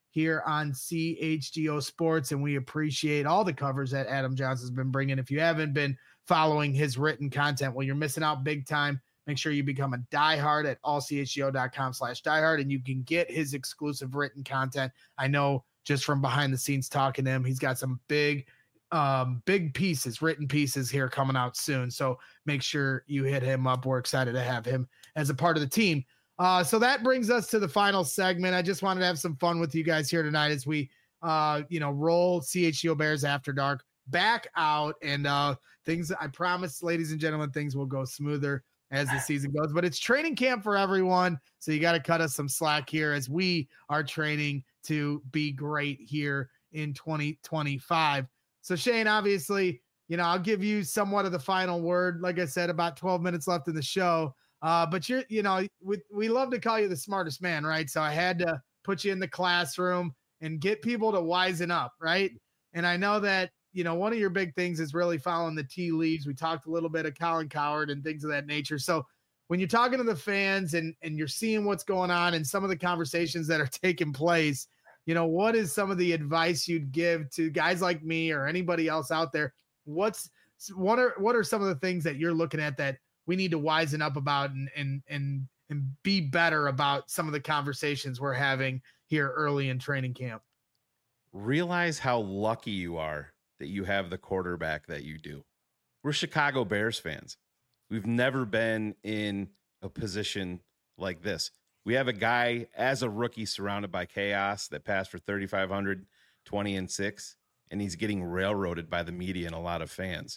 here on CHGO Sports, and we appreciate all the covers that Adam Johnson's been bringing. If you haven't been following his written content, well, you're missing out big time. Make sure you become a diehard at allchgo.com/diehard, and you can get his exclusive written content. I know just from behind the scenes talking to him, he's got some big pieces, written pieces here coming out soon. So make sure you hit him up. We're excited to have him as a part of the team. So that brings us to the final segment. I just wanted to have some fun with you guys here tonight as we, roll CHGO Bears After Dark back out, and things, I promise, ladies and gentlemen, things will go smoother as the season goes, but it's training camp for everyone. So you got to cut us some slack here as we are training to be great here in 2025. So Shane, obviously, I'll give you somewhat of the final word. Like I said, about 12 minutes left in the show. But we love to call you the smartest man, right? So I had to put you in the classroom and get people to wisen up, right? And I know that, one of your big things is really following the tea leaves. We talked a little bit of Colin Cowherd and things of that nature. So when you're talking to the fans and you're seeing what's going on and some of the conversations that are taking place, what is some of the advice you'd give to guys like me or anybody else out there? What are some of the things that you're looking at that we need to wisen up about and be better about some of the conversations we're having here early in training camp? Realize how lucky you are that you have the quarterback that you do. We're Chicago Bears fans. We've never been in a position like this. We have a guy as a rookie surrounded by chaos that passed for 3,500, 20-6, and he's getting railroaded by the media and a lot of fans.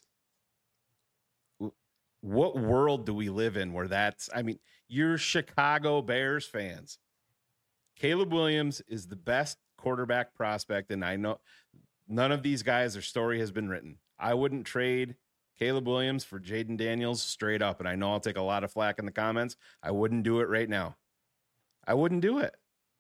What world do we live in where you're Chicago Bears fans. Caleb Williams is the best quarterback prospect, and I know none of these guys, their story has been written. I wouldn't trade Caleb Williams for Jaden Daniels straight up, and I know I'll take a lot of flack in the comments. I wouldn't do it right now. I wouldn't do it.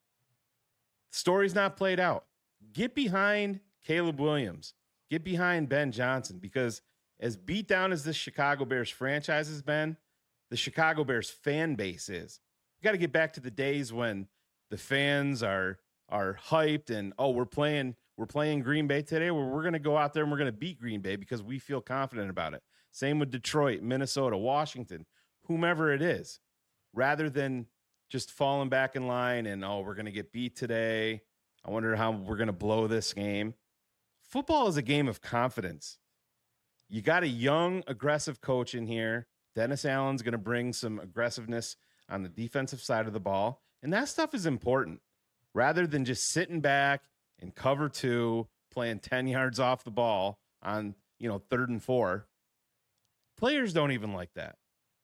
The story's not played out. Get behind Caleb Williams. Get behind Ben Johnson, because as beat down as this Chicago Bears franchise has been, the Chicago Bears fan base is. You got to get back to the days when the fans are hyped and, we're playing Green Bay today. We're going to go out there and we're going to beat Green Bay because we feel confident about it. Same with Detroit, Minnesota, Washington, whomever it is, rather than just falling back in line and, we're going to get beat today. I wonder how we're going to blow this game. Football is a game of confidence. You got a young, aggressive coach in here. Dennis Allen's going to bring some aggressiveness on the defensive side of the ball. And that stuff is important rather than just sitting back in cover 2, playing 10 yards off the ball on, 3rd and 4. Players don't even like that.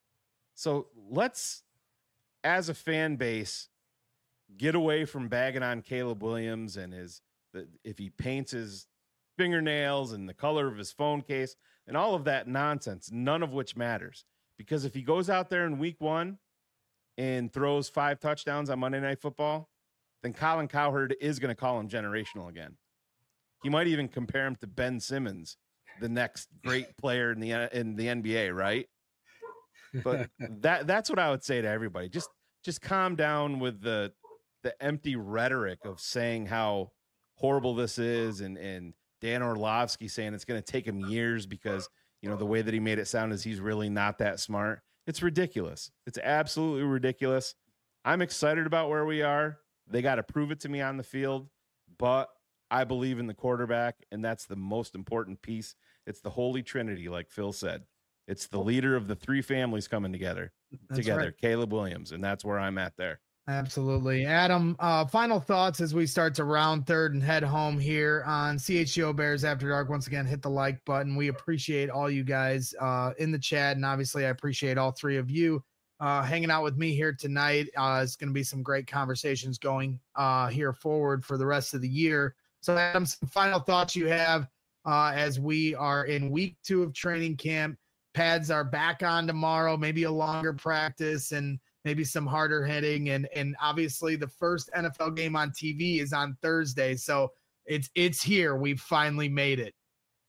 So let's, as a fan base, get away from bagging on Caleb Williams and if he paints his fingernails and the color of his phone case and all of that nonsense, none of which matters. Because if he goes out there in week 1 and throws 5 touchdowns on Monday Night Football, then Colin Cowherd is going to call him generational again. He might even compare him to Ben Simmons, the next great player in the NBA, right? But that's what I would say to everybody. Just calm down with the empty rhetoric of saying how horrible this is, and Dan Orlovsky saying it's going to take him years because, the way that he made it sound is he's really not that smart. It's ridiculous. It's absolutely ridiculous. I'm excited about where we are. They got to prove it to me on the field, but I believe in the quarterback, and that's the most important piece. It's the Holy Trinity, like Phil said. It's the leader of the 3 families coming together, right. Caleb Williams, and that's where I'm at there. Absolutely. Adam, final thoughts as we start to round third and head home here on CHGO Bears After Dark. Once again, hit the like button. We appreciate all you guys in the chat, and obviously I appreciate all 3 of you hanging out with me here tonight. It's going to be some great conversations going here forward for the rest of the year. So Adam, some final thoughts you have as we are in week 2 of training camp. Pads are back on tomorrow, maybe a longer practice and maybe some harder hitting. And obviously the first NFL game on TV is on Thursday. So it's here. We've finally made it.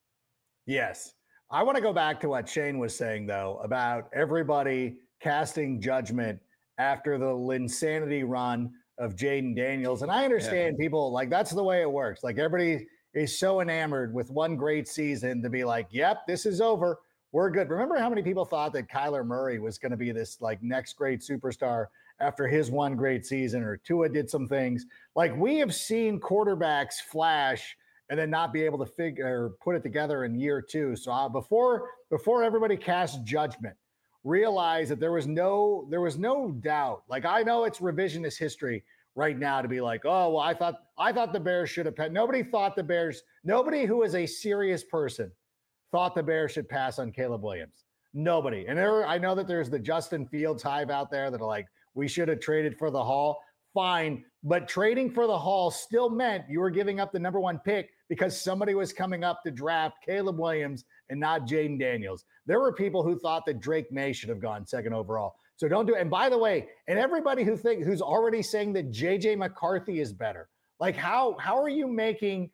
Yes. I want to go back to what Shane was saying, though, about everybody casting judgment after the Linsanity run of Jayden Daniels. And I understand people like that's the way it works. Like everybody is so enamored with one great season to be like, yep, this is over. We're good. Remember how many people thought that Kyler Murray was going to be this like next great superstar after his one great season, or Tua did some things. Like we have seen quarterbacks flash and then not be able to figure or put it together in year two. So before everybody casts judgment, realize that there was no doubt. Like I know it's revisionist history right now to be like, oh, well, I thought the Bears should have had. Nobody who is a serious person thought the Bears should pass on Caleb Williams. Nobody. And I know that there's the Justin Fields hive out there that are like, we should have traded for the Hall. Fine. But trading for the Hall still meant you were giving up the number one pick because somebody was coming up to draft Caleb Williams and not Jayden Daniels. There were people who thought that Drake May should have gone second overall. So don't do it. And by the way, and everybody who's already saying that JJ McCarthy is better. Like how are you making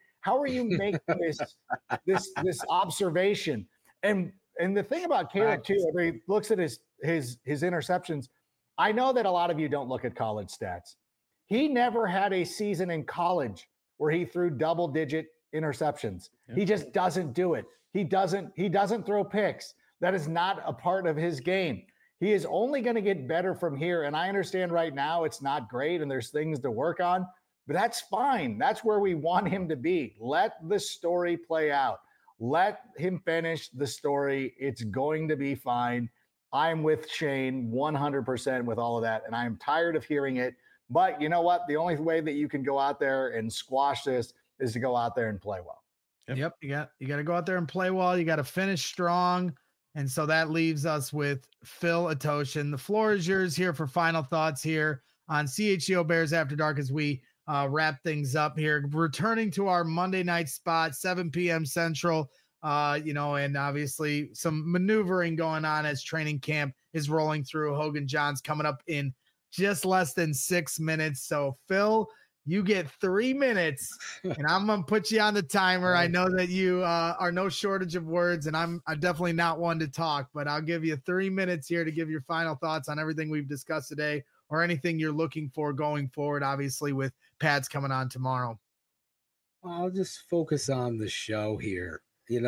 this observation? And the thing about Caleb too, everybody looks at his interceptions. I know that a lot of you don't look at college stats. He never had a season in college where he threw double-digit interceptions. Yeah. He just doesn't do it. He doesn't throw picks. That is not a part of his game. He is only going to get better from here. And I understand right now it's not great and there's things to work on, but that's fine. That's where we want him to be. Let the story play out. Let him finish the story. It's going to be fine. I'm with Shane 100% with all of that, and I'm tired of hearing it. But you know what? The only way that you can go out there and squash this is to go out there and play well. Yep. You got to go out there and play well. You got to finish strong. And so that leaves us with Phil Atoshin. The floor is yours here for final thoughts here on CHGO Bears After Dark as we wrap things up here. Returning to our Monday night spot, 7 p.m. Central. And obviously some maneuvering going on as training camp is rolling through. Hogan John's coming up in just less than 6 minutes. So Phil, you get 3 minutes and I'm going to put you on the timer. I know that you are no shortage of words and I'm definitely not one to talk, but I'll give you 3 minutes here to give your final thoughts on everything we've discussed today or anything you're looking for going forward, obviously with Pats coming on tomorrow. I'll just focus on the show here.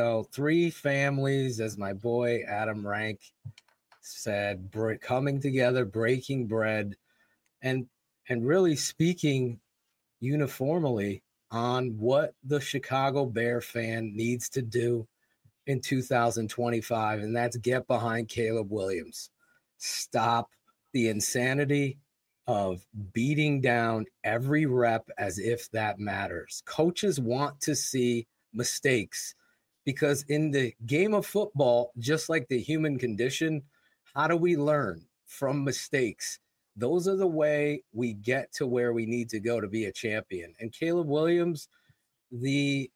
3 families, as my boy Adam Rank said, coming together, breaking bread, and really speaking uniformly on what the Chicago Bear fan needs to do in 2025, and that's get behind Caleb Williams. Stop the insanity of beating down every rep as if that matters. Coaches want to see mistakes. Because in the game of football, just like the human condition, how do we learn from mistakes? Those are the way we get to where we need to go to be a champion. And Caleb Williams, the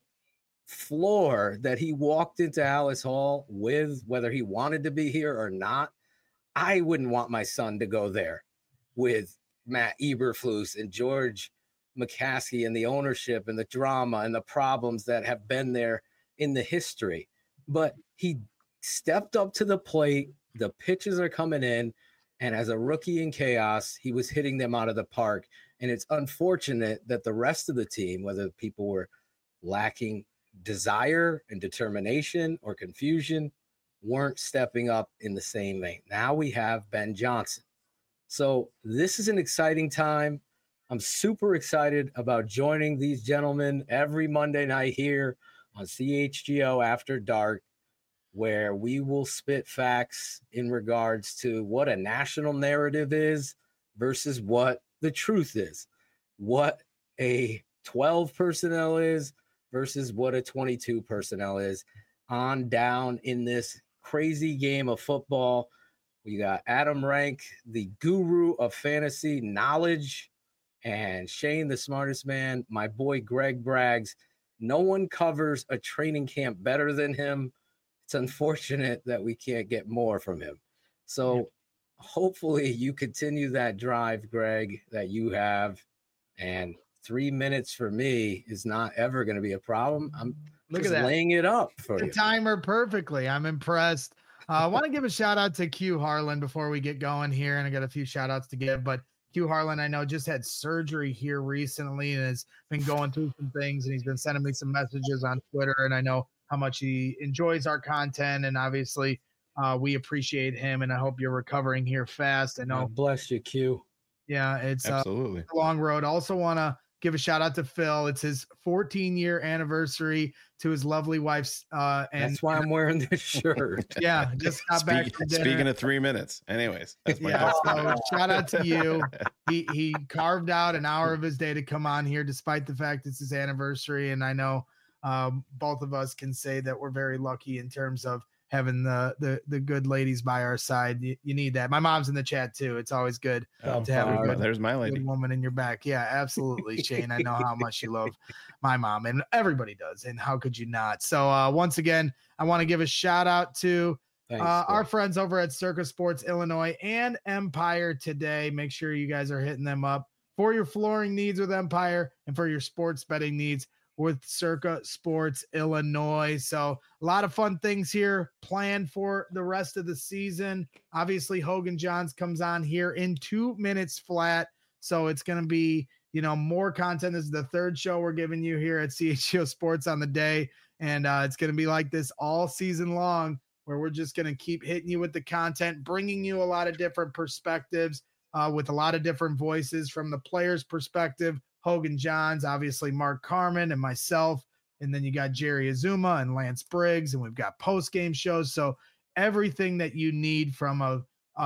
floor that he walked into Alice Hall with, whether he wanted to be here or not, I wouldn't want my son to go there with Matt Eberflus and George McCaskey and the ownership and the drama and the problems that have been there in the history. But he stepped up to the plate. The pitches are coming in. And as a rookie in chaos, he was hitting them out of the park. And it's unfortunate that the rest of the team, whether people were lacking desire and determination or confusion, weren't stepping up in the same vein. Now we have Ben Johnson. So this is an exciting time. I'm super excited about joining these gentlemen every Monday night here on CHGO After Dark, where we will spit facts in regards to what a national narrative is versus what the truth is, what a 12 personnel is versus what a 22 personnel is on down in this crazy game of football. We got Adam Rank, the guru of fantasy knowledge, and Shane, the smartest man, my boy Greg Braggs. No one covers a training camp better than him. It's unfortunate that we can't get more from him. So hopefully you continue that drive, Greg, that you have. And 3 minutes for me is not ever going to be a problem. I'm just laying it up for you. Timer perfectly. I'm impressed. I want to give a shout out to Q Harlan before we get going here. And I got a few shout outs to give, but Q Harlan, I know, just had surgery here recently and has been going through some things, and he's been sending me some messages on Twitter, and I know how much he enjoys our content, and obviously we appreciate him, and I hope you're recovering here fast. I know. God bless you, Q. Yeah, it's absolutely a long road. Also want to give a shout out to Phil. It's his 14-year anniversary to his lovely wife's. And that's why I'm wearing this shirt. Yeah, just got back from dinner. Speaking of 3 minutes, anyways, that's my so shout out to you. He carved out an hour of his day to come on here, despite the fact it's his anniversary. And I know both of us can say that we're very lucky in terms of having the good ladies by our side. You need that. My mom's in the chat too. It's always good to have a good, there's my lady woman in your back. Yeah, absolutely, Shane. I know how much you love my mom, and everybody does. And how could you not? So once again, I want to give a shout out to our friends over at Circa Sports Illinois and Empire today. Make sure you guys are hitting them up for your flooring needs with Empire and for your sports betting needs with Circa Sports Illinois. So a lot of fun things here planned for the rest of the season. Obviously, Hogan Johns comes on here in 2 minutes flat. So it's going to be, more content. This is the third show we're giving you here at CHGO Sports on the day. And it's going to be like this all season long, where we're just going to keep hitting you with the content, bringing you a lot of different perspectives with a lot of different voices from the player's perspective. Hogan Johns, obviously Mark Carman and myself, and then you got Jerry Azuma and Lance Briggs, and we've got post-game shows. So everything that you need from a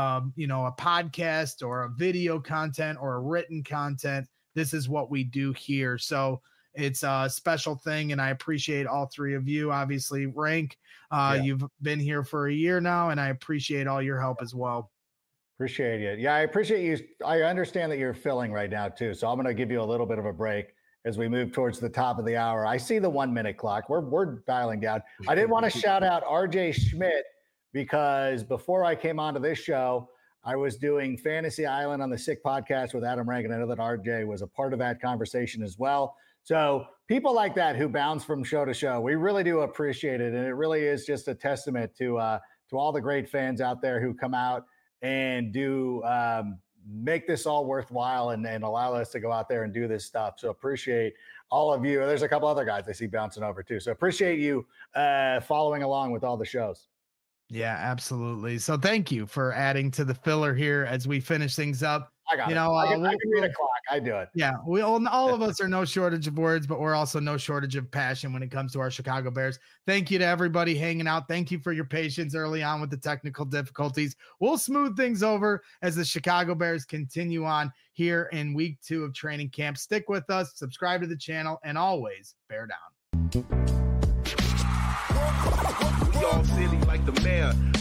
podcast or a video content or a written content, this is what we do here. So it's a special thing, and I appreciate all three of you. Obviously, Rank, you've been here for a year now, and I appreciate all your help as well. Appreciate it. Yeah, I appreciate you. I understand that you're filling right now too. So I'm going to give you a little bit of a break as we move towards the top of the hour. I see the 1 minute clock. We're dialing down. I did want to shout out RJ Schmidt, because before I came onto this show, I was doing Fantasy Island on the Sick podcast with Adam Rank, and I know that RJ was a part of that conversation as well. So people like that who bounce from show to show, we really do appreciate it. And it really is just a testament to all the great fans out there who come out and do make this all worthwhile and allow us to go out there and do this stuff. So appreciate all of you. There's a couple other guys I see bouncing over too. So appreciate you following along with all the shows. Yeah, absolutely. So thank you for adding to the filler here as we finish things up. I got it. I can read a clock. I do it. Yeah, all of us are no shortage of words, but we're also no shortage of passion when it comes to our Chicago Bears. Thank you to everybody hanging out. Thank you for your patience early on with the technical difficulties. We'll smooth things over as the Chicago Bears continue on here in week 2 of training camp. Stick with us, subscribe to the channel, and always bear down. We all silly like the mayor.